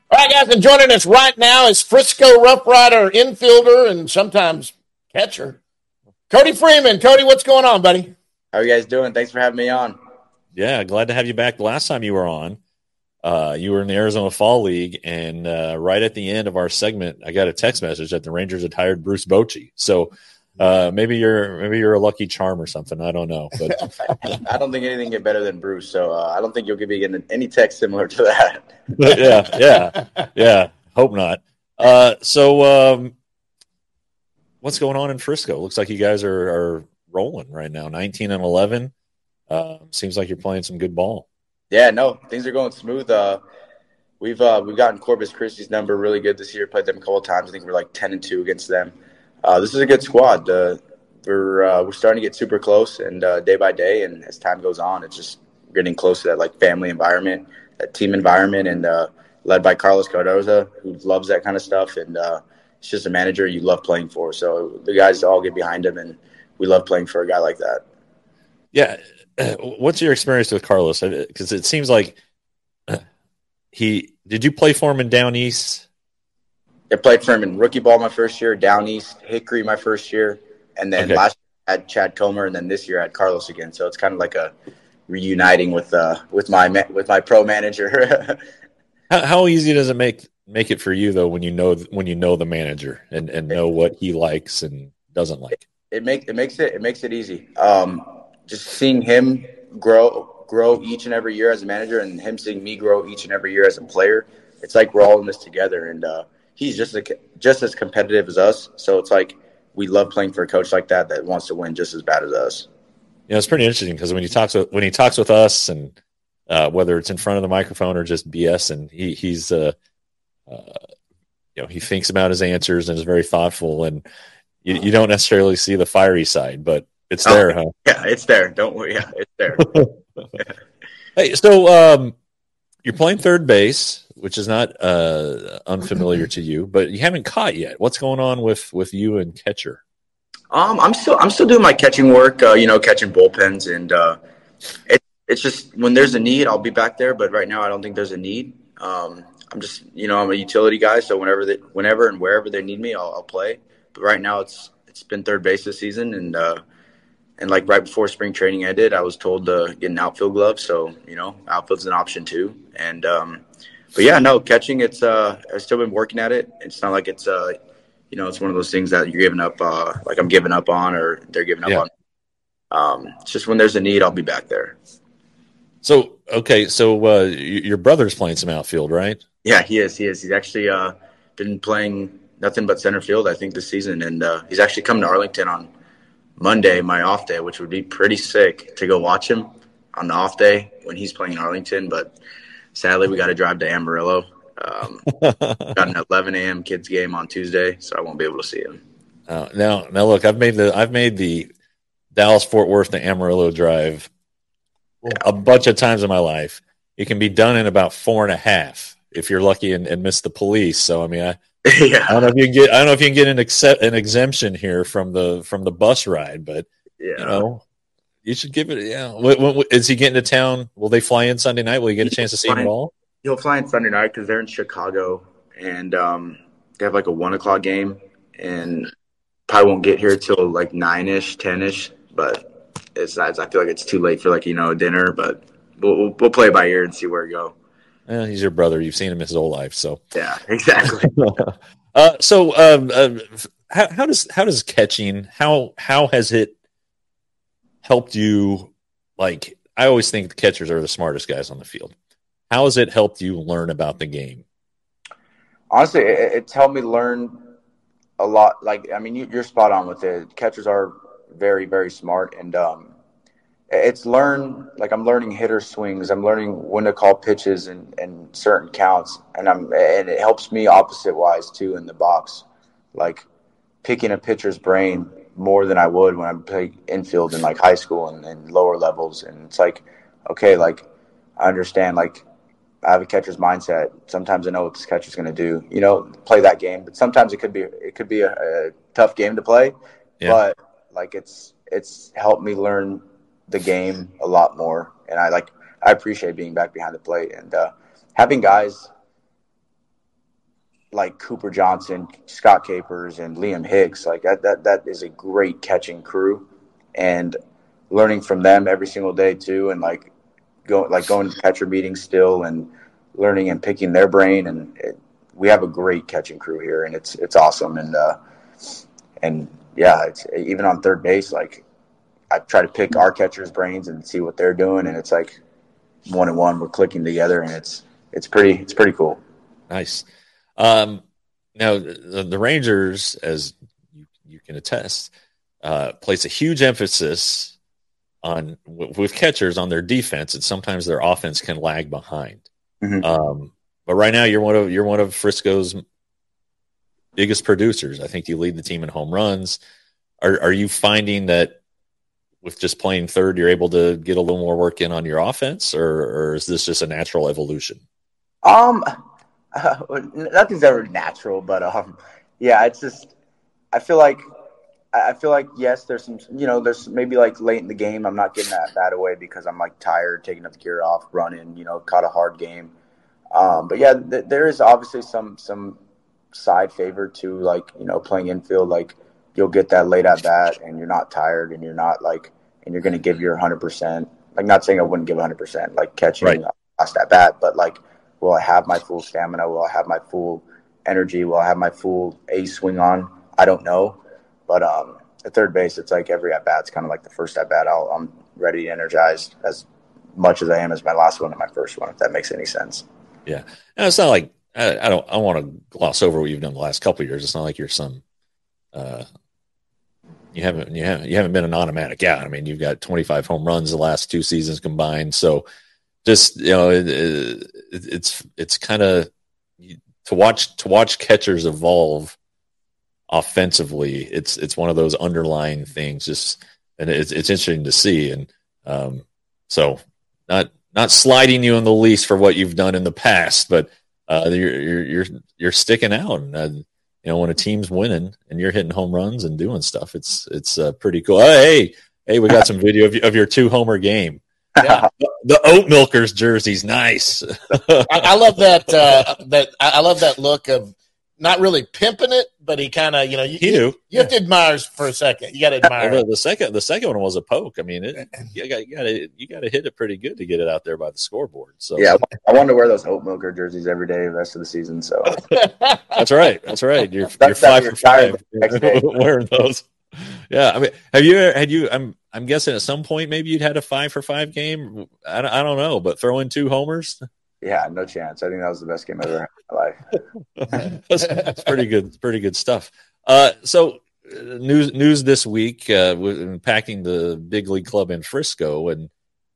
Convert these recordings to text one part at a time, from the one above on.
All right, guys, and joining us right now is Frisco Rough Rider infielder and sometimes catcher, Cody Freeman. Cody, what's going on, buddy? How are you guys doing? Thanks for having me on. Yeah, glad to have you back. The last time you were on, you were in the Arizona Fall League, and right at the end of our segment, I got a text message that the Rangers had hired Bruce Bochy. So maybe you're a lucky charm or something. I don't know, but I don't think anything get better than Bruce, so I don't think you'll be getting any text similar to that. yeah. Hope not. So what's going on in Frisco? Looks like you guys are rolling right now, 19-11. Seems like you're playing some good ball. Yeah, no, things are going smooth. We've gotten Corpus Christi's number really good this year. Played them a couple of times. I think we're like 10-2 against them. This is a good squad. We're starting to get super close, and day by day, and as time goes on, it's just getting close to that like family environment, that team environment, and led by Carlos Cardoza, who loves that kind of stuff, and it's just a manager you love playing for. So the guys all get behind him, and we love playing for a guy like that. Yeah. What's your experience with Carlos? Because it seems like did you play for him in Down East? I played for him in rookie ball my first year, Down East, Hickory my first year, and then last year I had Chad Comer, and then this year I had Carlos again. So it's kind of like a reuniting with my pro manager. How easy does it make it for you though when you know the manager and know what he likes and doesn't like? It makes it easy. Just seeing him grow each and every year as a manager, and him seeing me grow each and every year as a player. It's like we're all in this together, and he's just as competitive as us. So it's like we love playing for a coach like that wants to win just as bad as us. Yeah, it's pretty interesting because when he talks with us, and whether it's in front of the microphone or just BS, and he's he thinks about his answers and is very thoughtful, and you don't necessarily see the fiery side, but it's there, huh? Yeah, it's there. Don't worry. Yeah, it's there. Hey, so you're playing third base, which is not unfamiliar to you, but you haven't caught yet. What's going on with you and catcher? I'm still doing my catching work. Catching bullpens, and it's just when there's a need, I'll be back there. But right now, I don't think there's a need. I'm just I'm a utility guy, so whenever and wherever they need me, I'll play. But right now, it's been third base this season, and like right before spring training ended, I was told to get an outfield glove. So, outfield's an option too. And, but yeah, no, catching, I've still been working at it. It's not like it's one of those things that you're giving up, like I'm giving up on or they're giving up on. It's just when there's a need, I'll be back there. So, okay. So, your brother's playing some outfield, right? Yeah, he is. He's actually, been playing nothing but center field, I think, this season. And, he's actually coming to Arlington on Monday, my off day, which would be pretty sick to go watch him on the off day when he's playing in Arlington. But sadly, we got to drive to Amarillo. Got an 11 a.m. kids game on Tuesday, so I won't be able to see him. Now, look, I've made the Dallas Fort Worth to Amarillo drive a bunch of times in my life. It can be done in about 4.5 if you're lucky and miss the police. So I mean, Yeah. I don't know if you can get an exemption here from the bus ride, but you should give it. Yeah, is he getting to town? Will they fly in Sunday night? Will you get a chance to see him at all? He'll fly in Sunday night because they're in Chicago, and they have like a 1:00 game, and probably won't get here till like 9-ish, 10-ish. But I feel like it's too late for a dinner. But we'll play by ear and see where we go. He's your brother. You've seen him his whole life, so yeah, exactly. How does catching how has it helped you? Like, I always think the catchers are the smartest guys on the field. How has it helped you learn about the game? Honestly, it's helped me learn a lot. Like, I mean, you're spot on with it. Catchers are very, very smart, and I'm learning hitter swings. I'm learning when to call pitches and certain counts, and it helps me opposite wise too in the box, like picking a pitcher's brain more than I would when I played infield in like high school and lower levels. And it's like, okay, like I understand, like I have a catcher's mindset. Sometimes I know what this catcher's going to do, play that game. But sometimes it could be a tough game to play, but like it's helped me learn the game a lot more, and I appreciate being back behind the plate and having guys like Cooper Johnson, Scott Capers, and Liam Hicks. Like that is a great catching crew, and learning from them every single day too, and going to catcher meetings still and learning and picking their brain. And we have a great catching crew here, and it's awesome. And yeah, it's even on third base. Like I try to pick our catchers' brains and see what they're doing, and it's like 1-1, we're clicking together, and it's pretty cool. Nice. Now the Rangers, as you can attest, place a huge emphasis on with catchers on their defense, and sometimes their offense can lag behind. Mm-hmm. But right now, you're one of Frisco's biggest producers. I think you lead the team in home runs. Are you finding that with just playing third, you're able to get a little more work in on your offense, or is this just a natural evolution? Nothing's ever natural, but yeah, it's just I feel like yes, there's some, there's maybe like late in the game I'm not getting that away because I'm like tired, taking up the gear off, running, caught a hard game. But yeah, there is obviously some side favor to like, playing infield. Like you'll get that late at bat and you're not tired and you're not like, and you're going to give your 100%. Like not saying I wouldn't give 100%, like catching right. Last at bat, but like, will I have my full stamina? Will I have my full energy? Will I have my full A swing on? I don't know. But at third base, it's like every at bat's kind of like the first at bat. I'm ready, energized as much as I am as my last one and my first one, if that makes any sense. Yeah, and it's not like I want to gloss over what you've done the last couple of years. It's not like you're some you haven't been an automatic out. I mean, you've got 25 home runs the last 2 seasons combined. So just it's kind of to watch catchers evolve offensively. It's one of those underlying things. Just and it's interesting to see. And so not sliding you in the least for what you've done in the past, but you're sticking out. And when a team's winning and you're hitting home runs and doing stuff, it's pretty cool. Hey, we got some video of your 2-homer game. Yeah, the Oat Milkers jersey's nice. I love that. I love that look of not really pimping it, but he kind of, you have to admire for a second. You got to admire. The second one was a poke. I mean, you got to hit it pretty good to get it out there by the scoreboard. So yeah, I want to wear those Oat Milker jerseys every day the rest of the season. So that's right. You're 5 for 5 wearing those. Yeah, I mean, had you? I'm guessing at some point maybe you'd had a 5 for 5 game. I don't know, but throw in 2 homers. Yeah, no chance. I think that was the best game I've ever had in my life. That's pretty good. Pretty good stuff. So news this week impacting the big league club in Frisco, and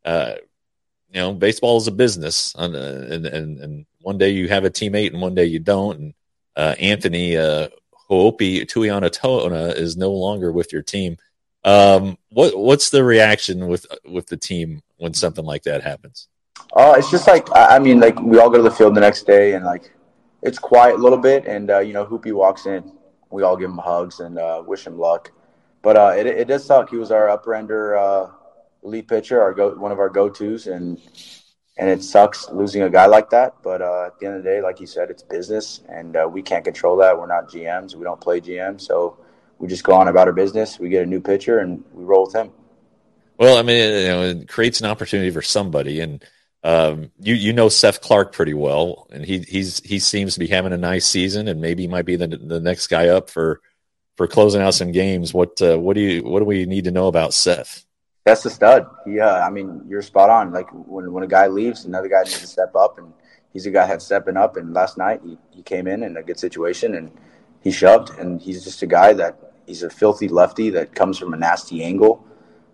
baseball is a business, and one day you have a teammate and one day you don't. And Anthony Ho'opi Tuiana-Tona is no longer with your team. What's the reaction with the team when something like that happens? It's just like, I mean, like we all go to the field the next day and like it's quiet a little bit. And, Hoopy walks in, we all give him hugs and wish him luck. But it does suck. He was our upper ender elite pitcher, one of our go-tos. And it sucks losing a guy like that. But at the end of the day, like you said, it's business and we can't control that. We're not GMs. We don't play GM. So we just go on about our business. We get a new pitcher and we roll with him. Well, I mean, it creates an opportunity for somebody. And, Seth Clark pretty well, and he seems to be having a nice season, and maybe he might be the next guy up for closing out some games. What do we need to know about Seth? That's the stud. I mean, you're spot on. Like when a guy leaves, another guy needs to step up, and he's a guy that's stepping up. And last night he came in a good situation and he shoved, and he's just a guy that he's a filthy lefty that comes from a nasty angle.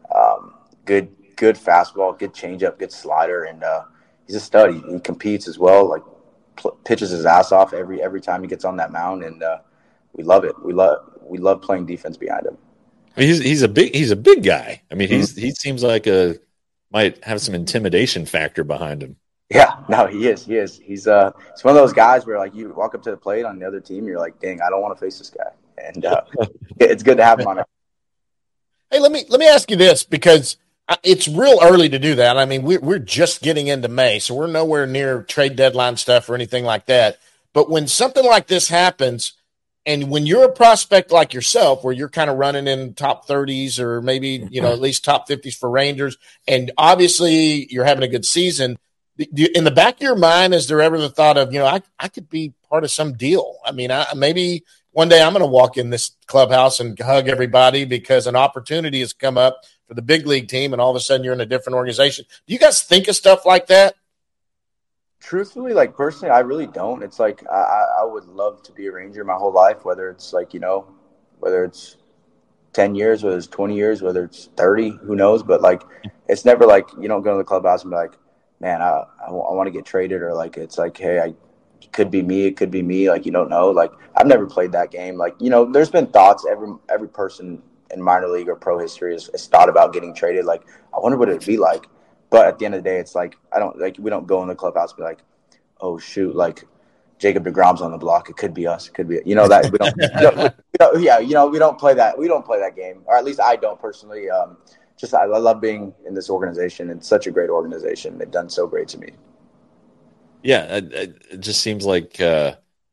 Good fastball, good changeup, good slider, and he's a stud. He competes as well, like pitches his ass off every time he gets on that mound, and we love it. We love playing defense behind him. He's a big guy. I mean, he seems like might have some intimidation factor behind him. Yeah, no, he is. He's one of those guys where like you walk up to the plate on the other team, you're like, dang, I don't want to face this guy, and it's good to have him on it. Hey, let me ask you this, because it's real early to do that. I mean, we're just getting into May, so we're nowhere near trade deadline stuff or anything like that. But when something like this happens, and when you're a prospect like yourself, where you're kind of running in top 30s or maybe, at least top 50s for Rangers, and obviously you're having a good season, in the back of your mind, is there ever the thought of, I could be part of some deal? I mean, maybe one day I'm going to walk in this clubhouse and hug everybody because an opportunity has come up for the big league team, and all of a sudden you're in a different organization. Do you guys think of stuff like that? Truthfully, like personally, I really don't. It's like I would love to be a Ranger my whole life, whether it's like, whether it's 10 years, whether it's 20 years, whether it's 30, who knows? But like, it's never like you don't go to the clubhouse and be like, man, I want to get traded, or like it's like, hey, it could be me. Like, you don't know. Like, I've never played that game. Like, there's been thoughts. Every person in minor league or pro history has thought about getting traded. Like, I wonder what it'd be like. But at the end of the day, it's like we don't go in the clubhouse and be like, oh shoot, like Jacob deGrom's on the block. It could be us. It could be that we don't. We don't play that. We don't play that game, or at least I don't personally. I love being in this organization. It's such a great organization. They've done so great to me. Yeah, it just seems like John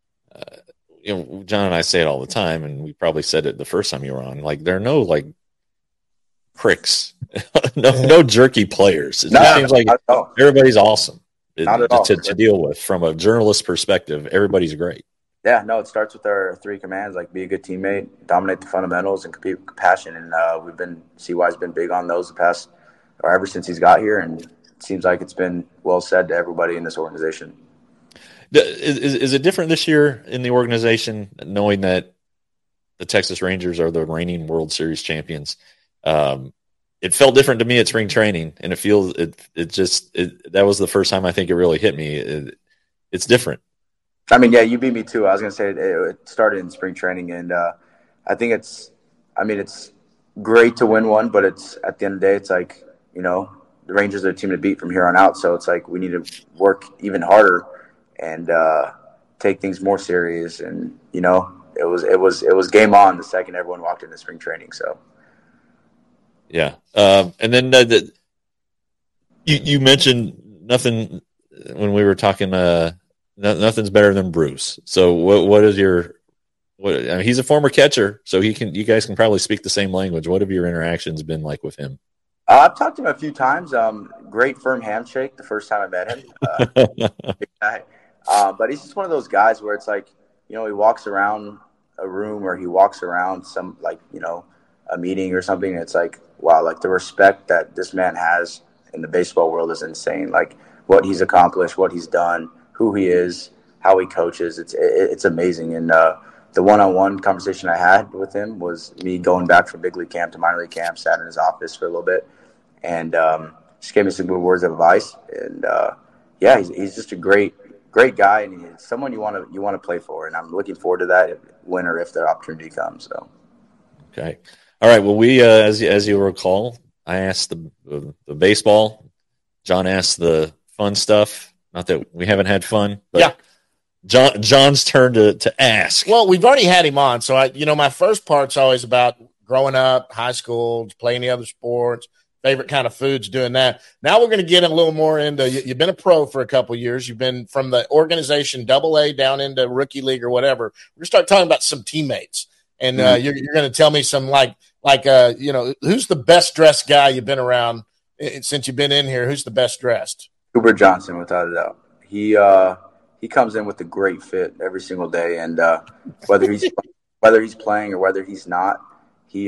and I say it all the time, and we probably said it the first time you were on. Like, there are no like pricks, no jerky players. It just seems like everybody's awesome to deal with. From a journalist perspective, everybody's great. Yeah, no, it starts with our 3 commands, like be a good teammate, dominate the fundamentals, and compete with passion. And CY's been big on those ever since he's got here, and it seems like it's been well said to everybody in this organization. Is it different this year in the organization, knowing that the Texas Rangers are the reigning World Series champions? It felt different to me at spring training, and it feels that was the first time I think it really hit me. It's different. I mean, yeah, you beat me too. I was going to say it started in spring training, and I think it's great to win one, but it's at the end of the day, it's like, the Rangers are the team to beat from here on out. So it's like we need to work even harder and take things more serious. And it was game on the second everyone walked into spring training. So yeah, and then you mentioned nothing when we were talking. Nothing's better than Bruce. So what is he's a former catcher, so you guys can probably speak the same language. What have your interactions been like with him? I've talked to him a few times. Great firm handshake the first time I met him. Big guy. But he's just one of those guys where it's like, he walks around a room or he walks around some a meeting or something. And it's like, wow, like the respect that this man has in the baseball world is insane. Like what he's accomplished, what he's done, who he is, how he coaches. It's amazing. And the one-on-one conversation I had with him was me going back from big league camp to minor league camp, sat in his office for a little bit, and just gave me some good words of advice. And he's just a great guy, and he's someone you want to play for. And I'm looking forward to that when or if the opportunity comes. So, okay, all right. Well, we as you recall, I asked the baseball. John asked the fun stuff. Not that we haven't had fun, but yeah. John's turn to ask. Well, we've already had him on, so my first part's always about growing up, high school, playing the other sports, favorite kind of foods, doing that. Now we're going to get a little more into. You've been a pro for a couple of years. You've been from the organization AA down into rookie league or whatever. We're going to start talking about some teammates, and you're going to tell me some who's the best dressed guy you've been around since you've been in here. Who's the best dressed? Cooper Johnson, without a doubt. He comes in with a great fit every single day, and whether he's playing or whether he's not, he's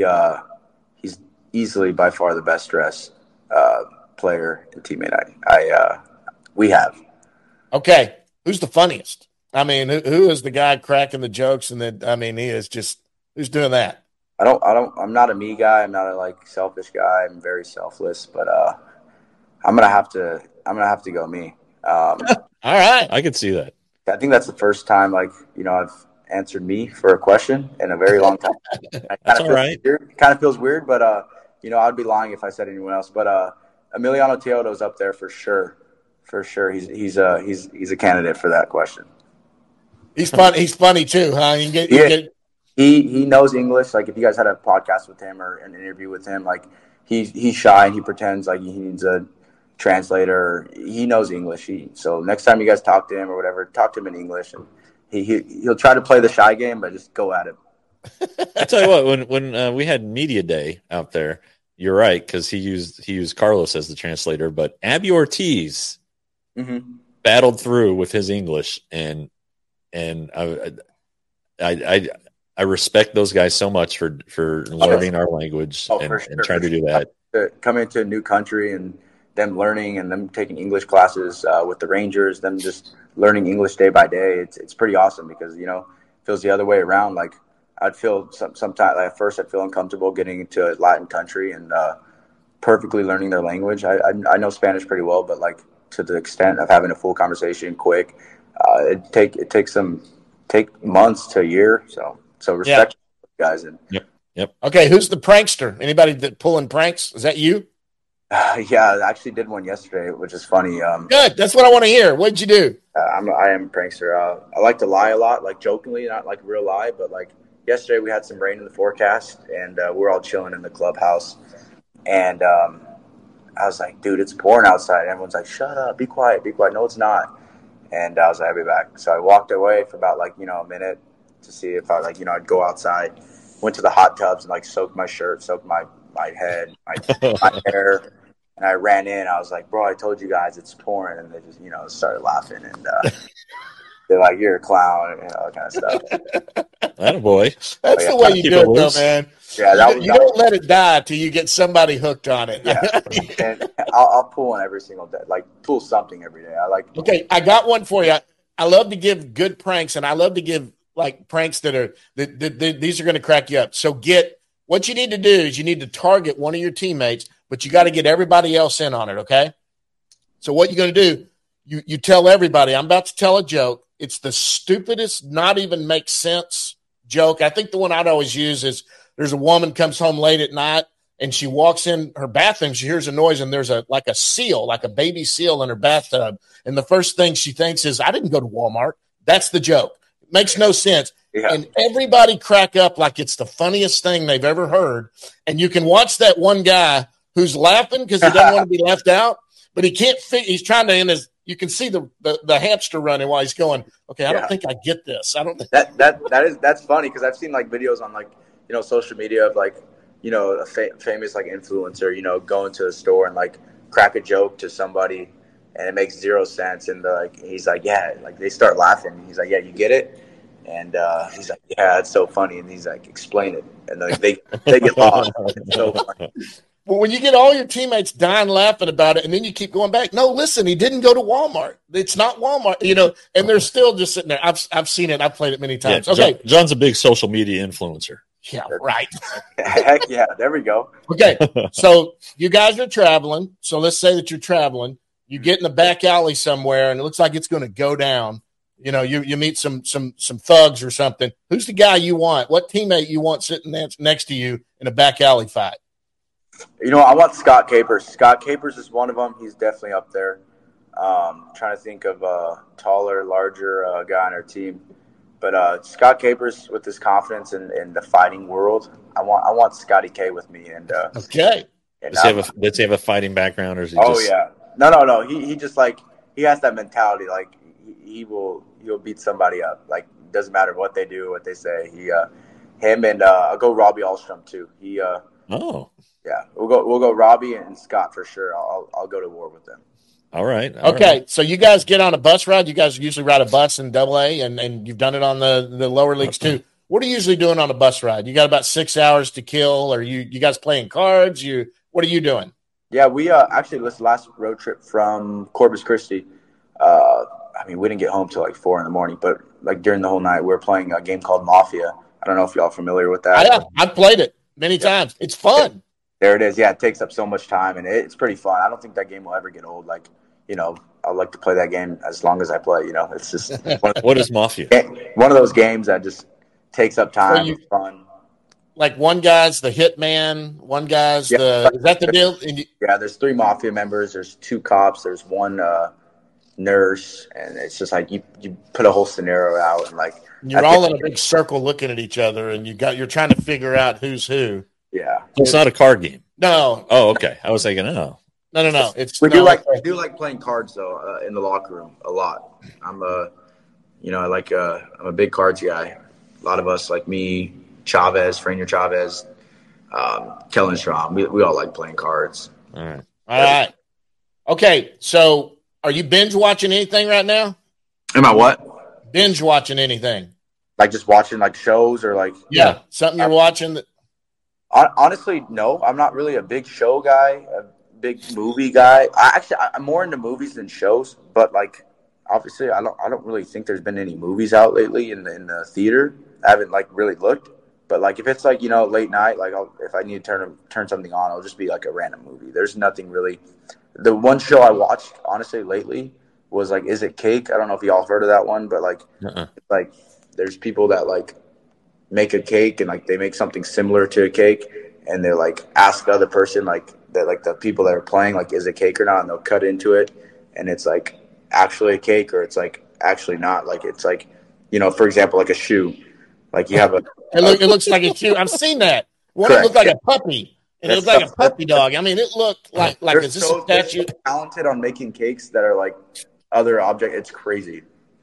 easily by far the best dressed player and teammate we have. Okay, who's the funniest? I mean, who is the guy cracking the jokes? And then, he is just who's doing that? I'm not a me guy. I'm not a selfish guy. I'm very selfless, but I'm gonna have to go me. All right, I can see that. I think that's the first time I've answered me for a question in a very long time. That's all right. It kind of feels weird, but I'd be lying if I said anyone else. But Emiliano Teodo's up there for sure. For sure, he's a candidate for that question. He's funny too, huh? He knows English. Like if you guys had a podcast with him or an interview with him, he's shy and he pretends like he needs a translator. He knows English. So next time you guys talk to him or whatever, talk to him in English, and he'll try to play the shy game, but just go at it. I tell you what, when we had media day out there, you're right, because he used Carlos as the translator, but Abby Ortiz battled through with his English, and I respect those guys so much for learning our language and trying to do that. Coming to a new country and them learning and them taking English classes with the Rangers, them just learning English day by day, it's pretty awesome because, you know, it feels the other way around. Like I'd feel sometimes at first I'd feel uncomfortable getting into a Latin country and perfectly learning their language. I know Spanish pretty well, but like to the extent of having a full conversation quick, it takes months to a year. So respect guys. And Yep. Okay, who's the prankster? Anybody that pulling pranks? Is that you? Yeah, I actually did one yesterday, which is funny. Good. That's what I want to hear. What'd you do? I am a prankster. I like to lie a lot, like jokingly, not like real lie, but like yesterday we had some rain in the forecast, and we're all chilling in the clubhouse. And I was like, dude, it's pouring outside. And everyone's like, shut up, be quiet, be quiet. No, it's not. And I was like, I'll be back. So I walked away for about like, a minute to see if I I'd go outside. Went to the hot tubs and like soaked my shirt, soaked my head, my hair. And I ran in. I was like, bro, I told you guys it's pouring. And they just, started laughing. And they're like, you're a clown, and all kind of stuff. Attaboy. That's the way you do it, though, man. Yeah, you don't let it die till you get somebody hooked on it. Yeah. And I'll pull one every single day, like pull something every day. Okay, I got one for you. I love to give good pranks, and I love to give like pranks that are these are going to crack you up. So what you need to do is you need to target one of your teammates, but you got to get everybody else in on it. Okay. So what you're going to do, you tell everybody, I'm about to tell a joke. It's the stupidest, not even make sense joke. I think the one I'd always use is there's a woman comes home late at night and she walks in her bathroom. She hears a noise and there's a seal, like a baby seal in her bathtub. And the first thing she thinks is, I didn't go to Walmart. That's the joke. Makes no sense. Yeah. And everybody crack up like it's the funniest thing they've ever heard. And you can watch that one guy who's laughing because he doesn't want to be left out, but he can't he's trying to you can see the hamster running while he's going, okay, I don't think I get this. I don't think that's funny because I've seen like videos on like, social media of like, a famous like influencer, going to a store and like crack a joke to somebody and it makes zero sense. And he's like, yeah, like they start laughing. He's like, yeah, you get it? And he's like, yeah, it's so funny. And he's like, explain it. And like, they get lost. It's so funny. Well, when you get all your teammates dying laughing about it, and then you keep going back, no, listen, he didn't go to Walmart. It's not Walmart, and they're still just sitting there. I've seen it. I've played it many times. Yeah, okay. John's a big social media influencer. Yeah, right. Heck yeah, there we go. Okay, so you guys are traveling. So let's say that you're traveling. You get in the back alley somewhere, and it looks like it's going to go down. You meet some thugs or something. Who's the guy you want? What teammate you want sitting next to you in a back alley fight? I want Scott Capers. Scott Capers is one of them. He's definitely up there. Trying to think of a taller, larger guy on our team. But Scott Capers, with his confidence in the fighting world, I want Scotty K with me. And okay. Does he have a fighting background, or is he? Yeah. No. He just he has that mentality. Like he'll beat somebody up. Like doesn't matter what they do, what they say. Him and I'll go Robbie Alstrom too. Yeah, we'll go Robbie and Scott for sure. I'll go to war with them. All right. Okay, so you guys get on a bus ride. You guys usually ride a bus in AA, and you've done it on the lower leagues too. What are you usually doing on a bus ride? You got about 6 hours to kill, or you guys playing cards? What are you doing? Yeah, we actually this last road trip from Corpus Christi. We didn't get home till like 4 a.m, but like during the whole night, we were playing a game called Mafia. I don't know if y'all are familiar with that. Yeah, I've played it many times. It's fun. There it is. Yeah, it takes up so much time, and it's pretty fun. I don't think that game will ever get old. Like, I like to play that game as long as I play. It's just what is Mafia? One of those games that just takes up time. It's fun. Like one guy's the hitman, one guy's is that the deal? Yeah, there's 3 Mafia members. There's 2 cops. There's 1 nurse, and it's just like you put a whole scenario out, and like you're all in a big circle looking at each other, and you're trying to figure out who's who. Yeah, so it's not a card game. No. Oh, okay. I was thinking, no. We do like playing cards though in the locker room a lot. You know, I'm a big cards guy. A lot of us, like me, Chavez, Franier Chavez, Kellen Strom, we all like playing cards. All right. All right. Okay, so are you binge watching anything right now? Am I what? Binge watching anything? Like just watching like shows or like Yeah, something you're watching that. Honestly, no. I'm not really a big show guy, a big movie guy. I'm more into movies than shows. But like, obviously, I don't really think there's been any movies out lately in the theater. I haven't like really looked. But like, if it's like late night, like if I need to turn something on, it'll just be like a random movie. There's nothing really. The one show I watched honestly lately was like, Is It Cake? I don't know if y'all heard of that one, but like, like there's people that like make a cake and like they make something similar to a cake and they're like ask the other person like that, like the people that are playing, like, is it cake or not, and they'll cut into it and it's like actually a cake or it's like actually not. Like it's like, for example, like a shoe, like you have it looks like a shoe. I've seen that one. It looked like a puppy and it looked like a puppy dog. I mean, it looked like is this a statue? Talented on making cakes that are like other object. It's crazy.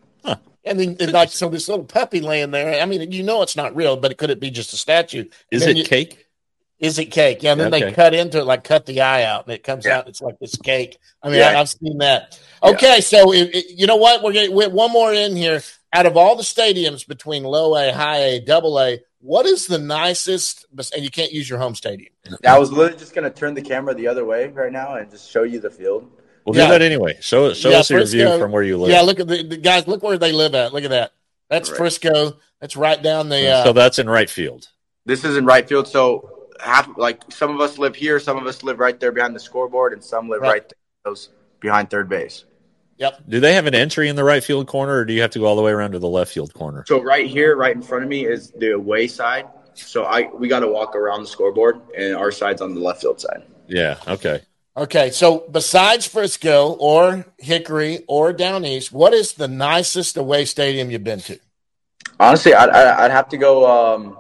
And then like, so this little puppy laying there, I mean, it's not real, but could it be just a statue? Is it cake? Is it cake? Yeah, and then they cut into it, like cut the eye out, and it comes out. It's like this cake. I mean, I've seen that. Okay, so you know what? We're getting one more in here. Out of all the stadiums between low A, high A, double A, what is the nicest? And you can't use your home stadium. I was literally just going to turn the camera the other way right now and just show you the field. We'll do that anyway. Show us your view from where you live. Yeah, look at the guys. Look where they live at. Look at that. That's right. Frisco. That's right down the. So that's in right field. This is in right field. So some of us live here, some of us live right there behind the scoreboard, and some live right there, behind third base. Yep. Do they have an entry in the right field corner, or do you have to go all the way around to the left field corner? So right here, right in front of me, is the away side. So we got to walk around the scoreboard, and our side's on the left field side. Yeah. Okay. Okay, so besides Frisco or Hickory or Down East, what is the nicest away stadium you've been to? Honestly, I'd have to go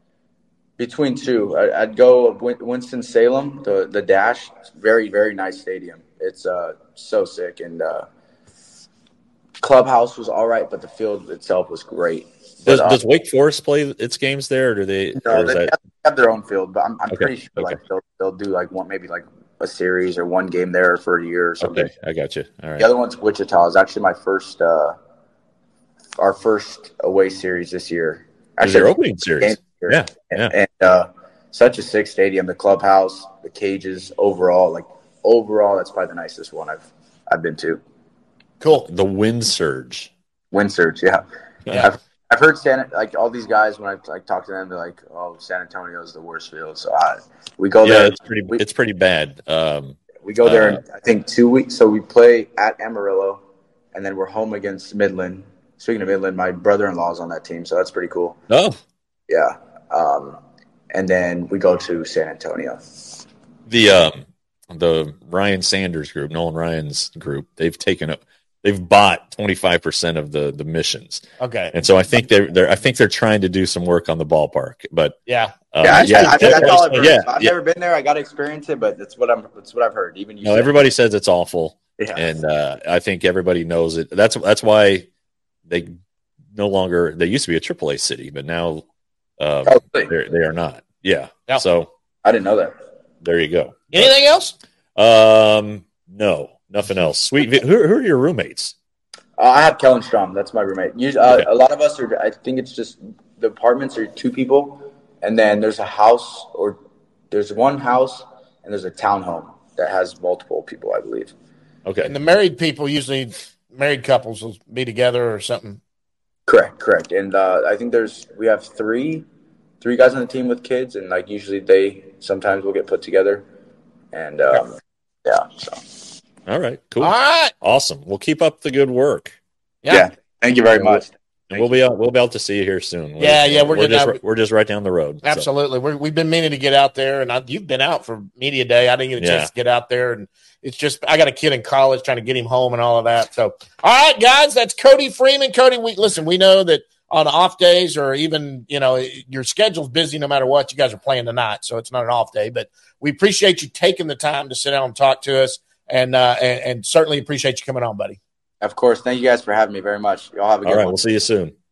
between two. I'd go Winston-Salem, the Dash. Very, very nice stadium. It's so sick, and clubhouse was all right, but the field itself was great. Does Wake Forest play its games there, or do they? No, they have their own field, but I'm pretty sure like they'll do like maybe a series or one game there for a year or something. Okay, I got you. All right. The other one's Wichita. It's actually my first, our first away series this year. Actually, your opening series. Yeah. And such a sick stadium. The clubhouse, the cages, overall, that's probably the nicest one I've been to. Cool. The Wind Surge. Yeah. I've heard all these guys when I talk to them, they're like, "Oh, San Antonio is the worst field." So we go there. It's pretty bad. We go there in I think 2 weeks. So we play at Amarillo, and then we're home against Midland. Speaking of Midland, my brother-in-law is on that team, so that's pretty cool. Oh, yeah. And then we go to San Antonio. The Ryan Sanders group, Nolan Ryan's group, they've bought 25% of the missions. Okay, and so I think they're trying to do some work on the ballpark. But that's all I've heard. I've never been there. I got to experience it, but that's what I've heard. Even you. Everybody says it's awful. Yeah. And I think everybody knows it. That's why they no longer. They used to be a AAA city, but now they are not. Yeah. Yep. So I didn't know that. There you go. Anything else? No. Nothing else. Sweet. Who are your roommates? I have Kellen Strom. That's my roommate. A lot of us are. I think it's just the apartments are two people, and then there's a house, or there's one house, and there's a townhome that has multiple people, I believe. Okay. And the married people, usually married couples, will be together or something. Correct. And I think we have three guys on the team with kids, and usually they sometimes will get put together, and so. All right, cool. All right, awesome. We'll keep up the good work. Yeah. Thank you very much. And we'll be able to see you here soon. We're just right down the road. Absolutely. So. We've been meaning to get out there, and you've been out for media day. I didn't get a chance to get out there, and it's just I got a kid in college trying to get him home and all of that. So, all right, guys, that's Cody Freeman. Cody, we know that on off days or even your schedule's busy no matter what. You guys are playing tonight, so it's not an off day. But we appreciate you taking the time to sit down and talk to us. And certainly appreciate you coming on, buddy. Of course. Thank you guys for having me very much. Y'all have a good All right, one. we'll see you soon.